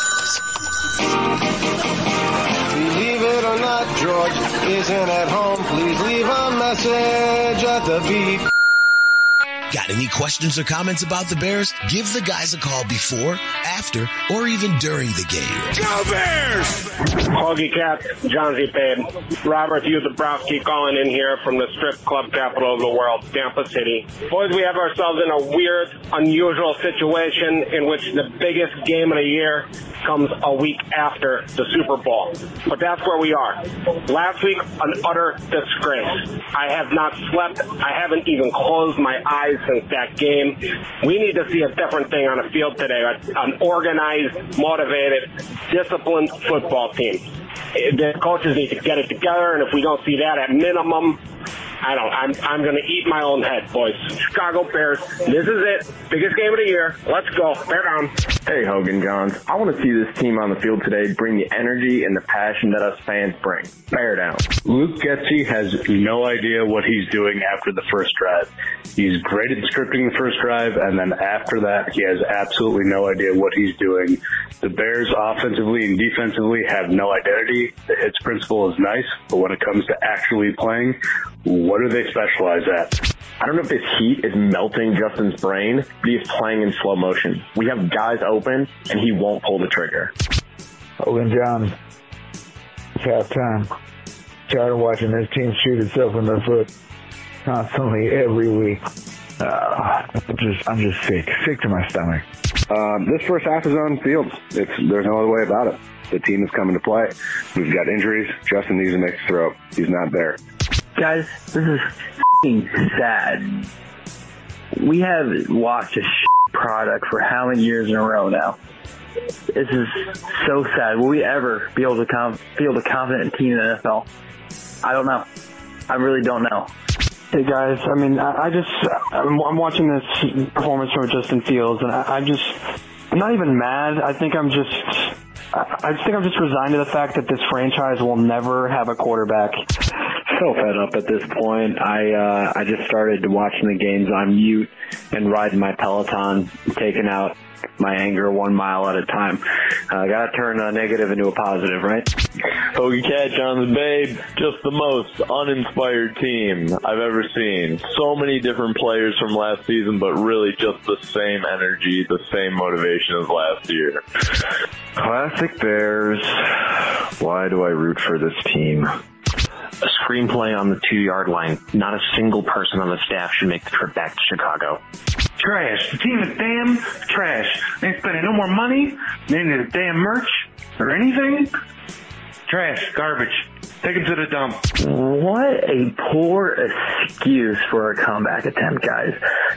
Believe it or not, George isn't at home. Please leave a message at the beep. Got any questions or comments about the Bears? Give the guys a call before, after, or even during the game. Go Bears! Hoagie Cat, John Z. Payne. Robert Hugh Dabrowski calling in here from the strip club capital of the world, Tampa City. Boys, we have ourselves in a weird, unusual situation in which the biggest game of the year comes a week after the Super Bowl. But that's where we are. Last week, an utter disgrace. I have not slept. I haven't even closed my eyes since that game. We need to see a different thing on the field today. An organized, motivated, disciplined football team. The coaches need to get it together, and if we don't see that at minimum, I'm going to eat my own head, boys. Chicago Bears, this is it. Biggest game of the year. Let's go. Bear down. Hey, Hogan Johns. I want to see this team on the field today bring the energy and the passion that us fans bring. Bear down. Luke Getsy has no idea what he's doing after the first drive. He's great at scripting the first drive, and then after that, he has absolutely no idea what he's doing. The Bears offensively and defensively have no identity. The hits principle is nice, but when it comes to actually playing, what do they specialize at? I don't know if this heat is melting Justin's brain, but he's playing in slow motion. We have guys open, and he won't pull the trigger. Hogan Johns, it's halftime. Tired of watching this team shoot itself in the foot constantly every week. I'm just sick to my stomach. This first half is on Fields. There's no other way about it. The team is coming to play. We've got injuries. Justin needs to make a throw. He's not there. Guys, this is f***ing sad. We have watched a product for how many years in a row now? This is so sad. Will we ever be able to field a confident team in the NFL? I don't know. I really don't know. Hey guys, I mean, I'm watching this performance from Justin Fields, and I'm not even mad. I think I'm just resigned to the fact that this franchise will never have a quarterback. So fed up at this point. I just started watching the games on mute and riding my Peloton, taking out my anger 1 mile at a time. Gotta turn a negative into a positive, right? Hoagie Cat John's Babe, just the most uninspired team I've ever seen. So many different players from last season, but really just the same energy, the same motivation as last year. Classic Bears. Why do I root for this team? A screenplay on the 2-yard line. Not a single person on the staff should make the trip back to Chicago. Trash. The team is damn trash. They ain't spending no more money. They ain't need damn merch or anything. Trash. Garbage. Take them to the dump. What a poor excuse for a comeback attempt, guys.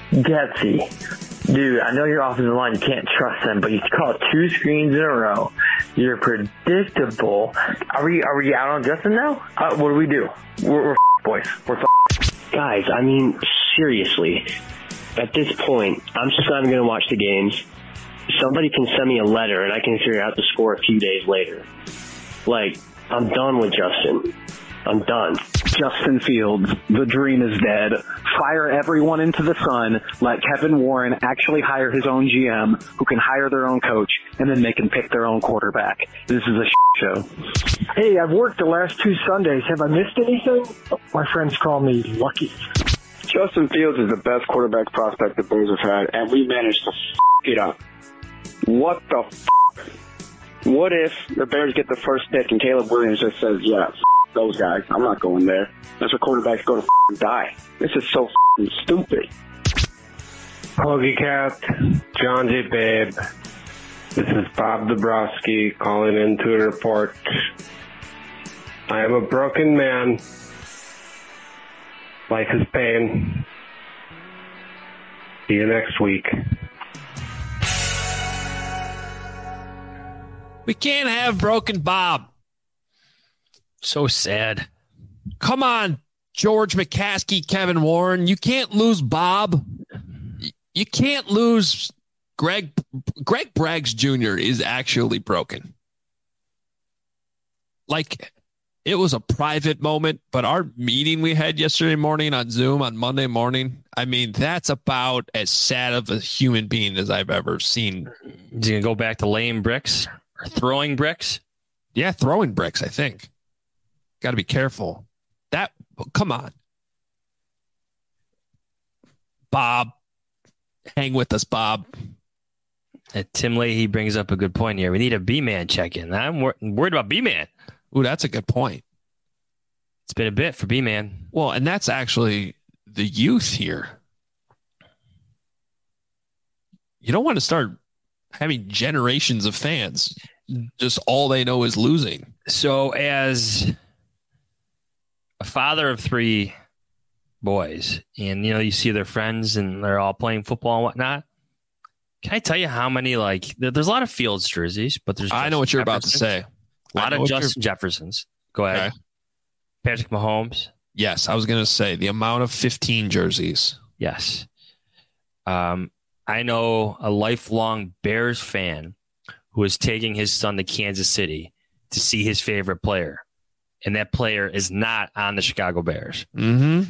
Getsy. Dude, I know your offensive line, you can't trust them, but you call 2 screens in a row. You're predictable. Are we out on Justin now? What do we do? We're boys. We're Guys, I mean, seriously. At this point, I'm just not even going to watch the games. Somebody can send me a letter, and I can figure out the score a few days later. Like, I'm done with Justin. I'm done. Justin Fields, the dream is dead. Fire everyone into the sun. Let Kevin Warren actually hire his own GM, who can hire their own coach, and then they can pick their own quarterback. This is a show. Hey, I've worked the last 2 Sundays. Have I missed anything? My friends call me lucky. Justin Fields is the best quarterback prospect the Bears have had, and we managed to it up. What the What if the Bears get the first pick and Caleb Williams just says, yeah, those guys, I'm not going there. That's where quarterbacks go to die. This is so stupid. Hoagie Cat, John J. Babe. This is Bob Dabrowski calling in to report. I am a broken man. Life is pain. See you next week. We can't have broken Bob. So sad. Come on, George McCaskey, Kevin Warren. You can't lose Bob. You can't lose Greg. Greg Braggs Jr. is actually broken. Like, it was a private moment, but our meeting we had yesterday morning on Zoom on Monday morning, I mean, that's about as sad of a human being as I've ever seen. Is he going to go back to laying bricks or throwing bricks? Yeah, throwing bricks, I think. Got to be careful. Come on. Bob, hang with us, Bob. Tim Leahy brings up a good point here. We need a B-Man check-in. I'm worried about B-Man. Ooh, that's a good point. It's been a bit for B-Man. Well, and that's actually the youth here. You don't want to start having generations of fans. Just all they know is losing. So as a father of 3 boys, and, you know, you see their friends and they're all playing football and whatnot. Can I tell you how many, there's a lot of Fields jerseys, but there's I know what you're about to say. A lot of Justin Jeffersons. Go ahead. Okay. Patrick Mahomes. Yes, I was going to say the amount of 15 jerseys. Yes. I know a lifelong Bears fan who is taking his son to Kansas City to see his favorite player. And that player is not on the Chicago Bears. Mm-hmm.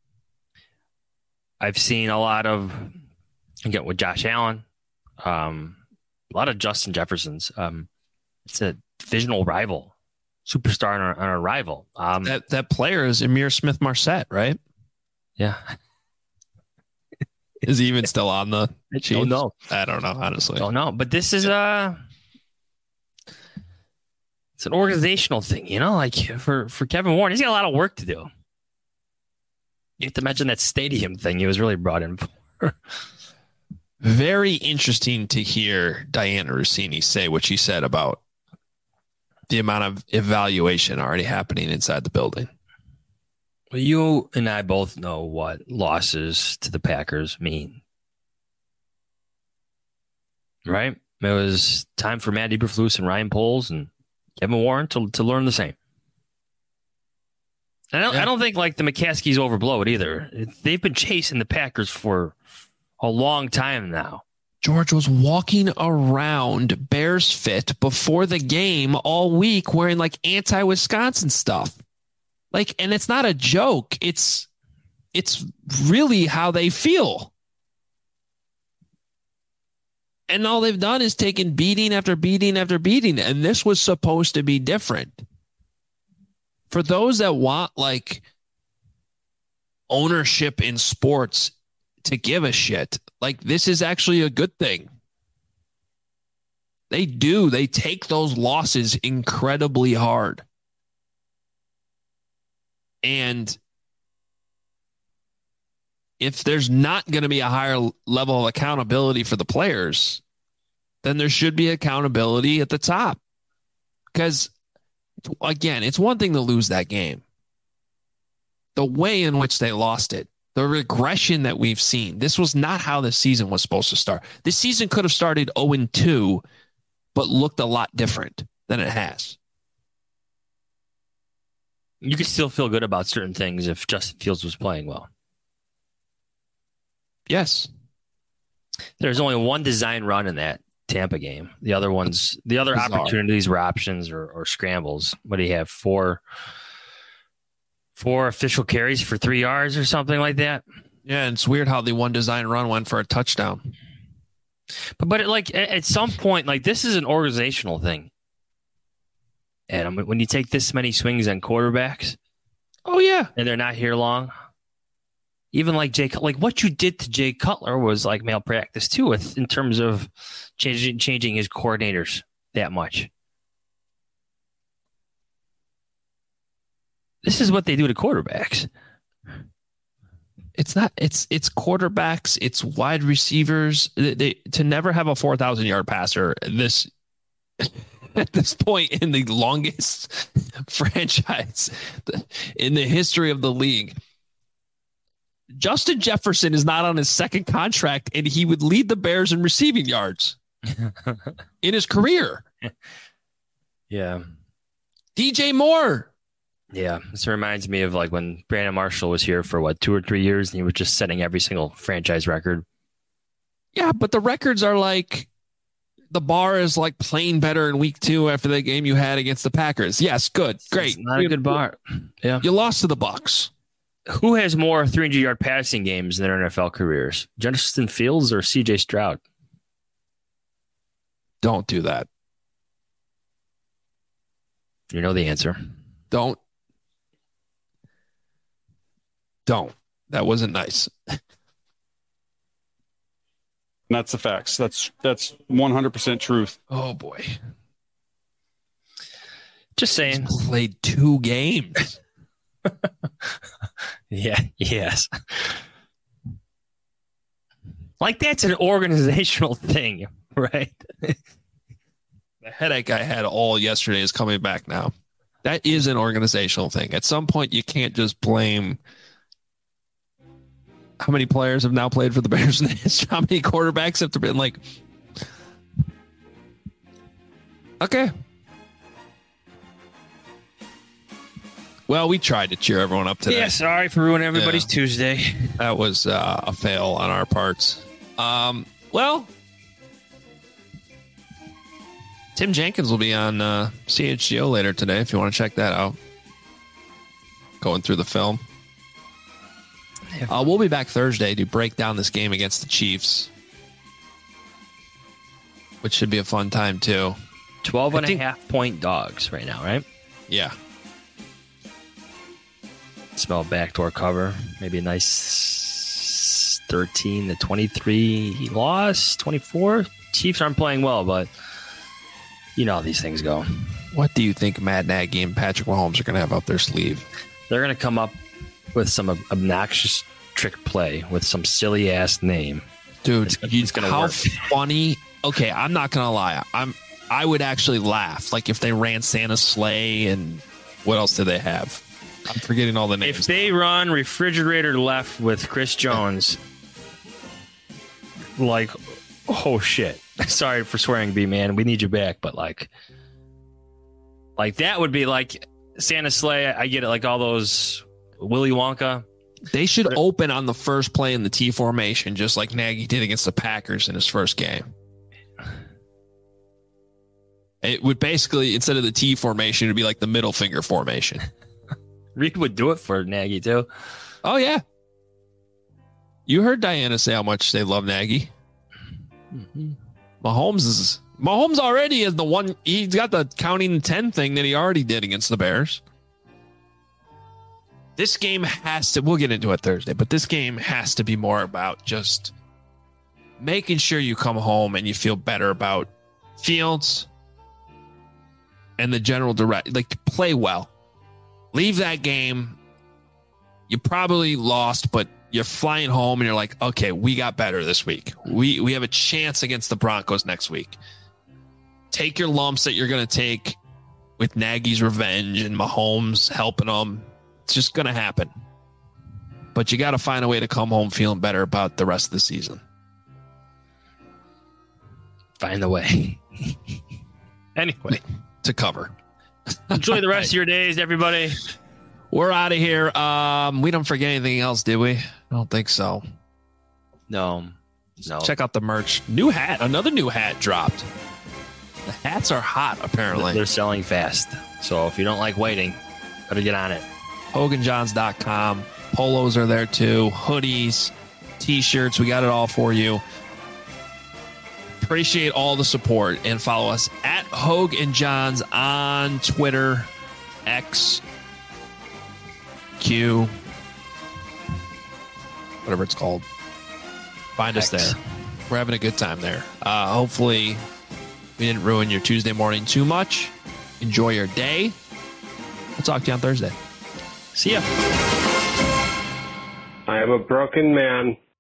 I've seen a lot of, again, with Josh Allen, a lot of Justin Jeffersons. It's a divisional rival, superstar on a rival. That player is Emir Smith-Marsette, right? Yeah. Is he even still on the Chiefs? Don't know. I don't know, honestly. Don't know. But this is it's an organizational thing, like for Kevin Warren, he's got a lot of work to do. You have to imagine that stadium thing he was really brought in for. Very interesting to hear Diana Rossini say what she said about the amount of evaluation already happening inside the building. Well, you and I both know what losses to the Packers mean. Right? It was time for Matt Eberflus and Ryan Poles and Kevin Warren to learn the same. And I don't think like the McCaskies overblow it either. They've been chasing the Packers for a long time now. George was walking around Bears Fit before the game all week wearing like anti-Wisconsin stuff. Like, and it's not a joke. It's really how they feel. And all they've done is taken beating after beating after beating. And this was supposed to be different. For those that want like ownership in sports to give a shit, like this is actually a good thing. They do. They take those losses incredibly hard. And if there's not going to be a higher level of accountability for the players, then there should be accountability at the top. Because, again, it's one thing to lose that game. The way in which they lost it, the regression that we've seen, this was not how the season was supposed to start. This season could have started 0-2, but looked a lot different than it has. You could still feel good about certain things if Justin Fields was playing well. Yes. There's only one design run in that Tampa game. The other opportunities were options or scrambles. What do you have? Four official carries for 3 yards or something like that. Yeah, and it's weird how the one design run went for a touchdown. But at some point, like this is an organizational thing. And when you take this many swings on quarterbacks, oh yeah, and they're not here long, even like what you did to Jay Cutler was like malpractice too, in terms of changing his coordinators that much. This is what they do to quarterbacks. It's not. It's quarterbacks. It's wide receivers. They to never have a 4,000-yard passer. At this point in the longest franchise in the history of the league, Justin Jefferson is not on his second contract, and he would lead the Bears in receiving yards in his career. Yeah. DJ Moore. Yeah. This reminds me of like when Brandon Marshall was here for 2 or 3 years, and he was just setting every single franchise record. Yeah, but the records are like, the bar is like playing better in week 2 after the game you had against the Packers. Yes, good, great. It's not a good bar. Yeah, you lost to the Bucs. Who has more 300-yard passing games in their NFL careers, Justin Fields or C.J. Stroud? Don't do that. You know the answer. Don't. That wasn't nice. That's the facts. That's 100% truth. Oh boy. Just saying. He's played 2 games. Yeah. Yes. Like that's an organizational thing, right? The headache I had all yesterday is coming back now. That is an organizational thing. At some point, you can't just blame. How many players have now played for the Bears in the history? How many quarterbacks have there been? Like, okay. Well, we tried to cheer everyone up today. Yeah, sorry for ruining everybody's Tuesday. That was a fail on our parts. Well, Tim Jenkins will be on CHGO later today if you want to check that out. Going through the film. We'll be back Thursday to break down this game against the Chiefs, which should be a fun time too. 12.5-point dogs right now, right? Yeah. Smell backdoor cover. Maybe a nice 13-23 loss, 24. Chiefs aren't playing well, but you know how these things go. What do you think Matt Nagy and Patrick Mahomes are going to have up their sleeve? They're going to come up with some obnoxious trick play with some silly ass name. Dude, it's going to work. Funny. Okay, I'm not going to lie. I would actually laugh. Like if they ran Santa's sleigh and what else do they have? I'm forgetting all the names. If they run refrigerator left with Chris Jones, like, oh shit. Sorry for swearing, B-man. We need you back. But like that would be like Santa's sleigh. I get it. Like all those Willy Wonka. They should open on the first play in the T formation, just like Nagy did against the Packers in his first game. It would basically, instead of the T formation, it would be like the middle finger formation. Reed would do it for Nagy, too. Oh, yeah. You heard Diana say how much they love Nagy. Mm-hmm. Mahomes already is the one. He's got the counting 10 thing that he already did against the Bears. This game has to, we'll get into it Thursday, but this game has to be more about just making sure you come home and you feel better about Fields and the general like play well. Leave that game. You probably lost, but you're flying home and you're like, okay, we got better this week. We have a chance against the Broncos next week. Take your lumps that you're going to take with Nagy's revenge and Mahomes helping them. It's just going to happen. But you got to find a way to come home feeling better about the rest of the season. Find the way. Anyway. To cover. Enjoy the rest of your days, everybody. We're out of here. We don't forget anything else, did we? I don't think so. No. Check out the merch. New hat. Another new hat dropped. The hats are hot, apparently. They're selling fast. So if you don't like waiting, better get on it. HoganJohns.com. Polos are there too. Hoodies, t-shirts. We got it all for you. Appreciate all the support and follow us at Hogue and Johns on Twitter, X, Q, whatever it's called. Find us there. We're having a good time there. Hopefully we didn't ruin your Tuesday morning too much. Enjoy your day. We'll talk to you on Thursday. See ya. I am a broken man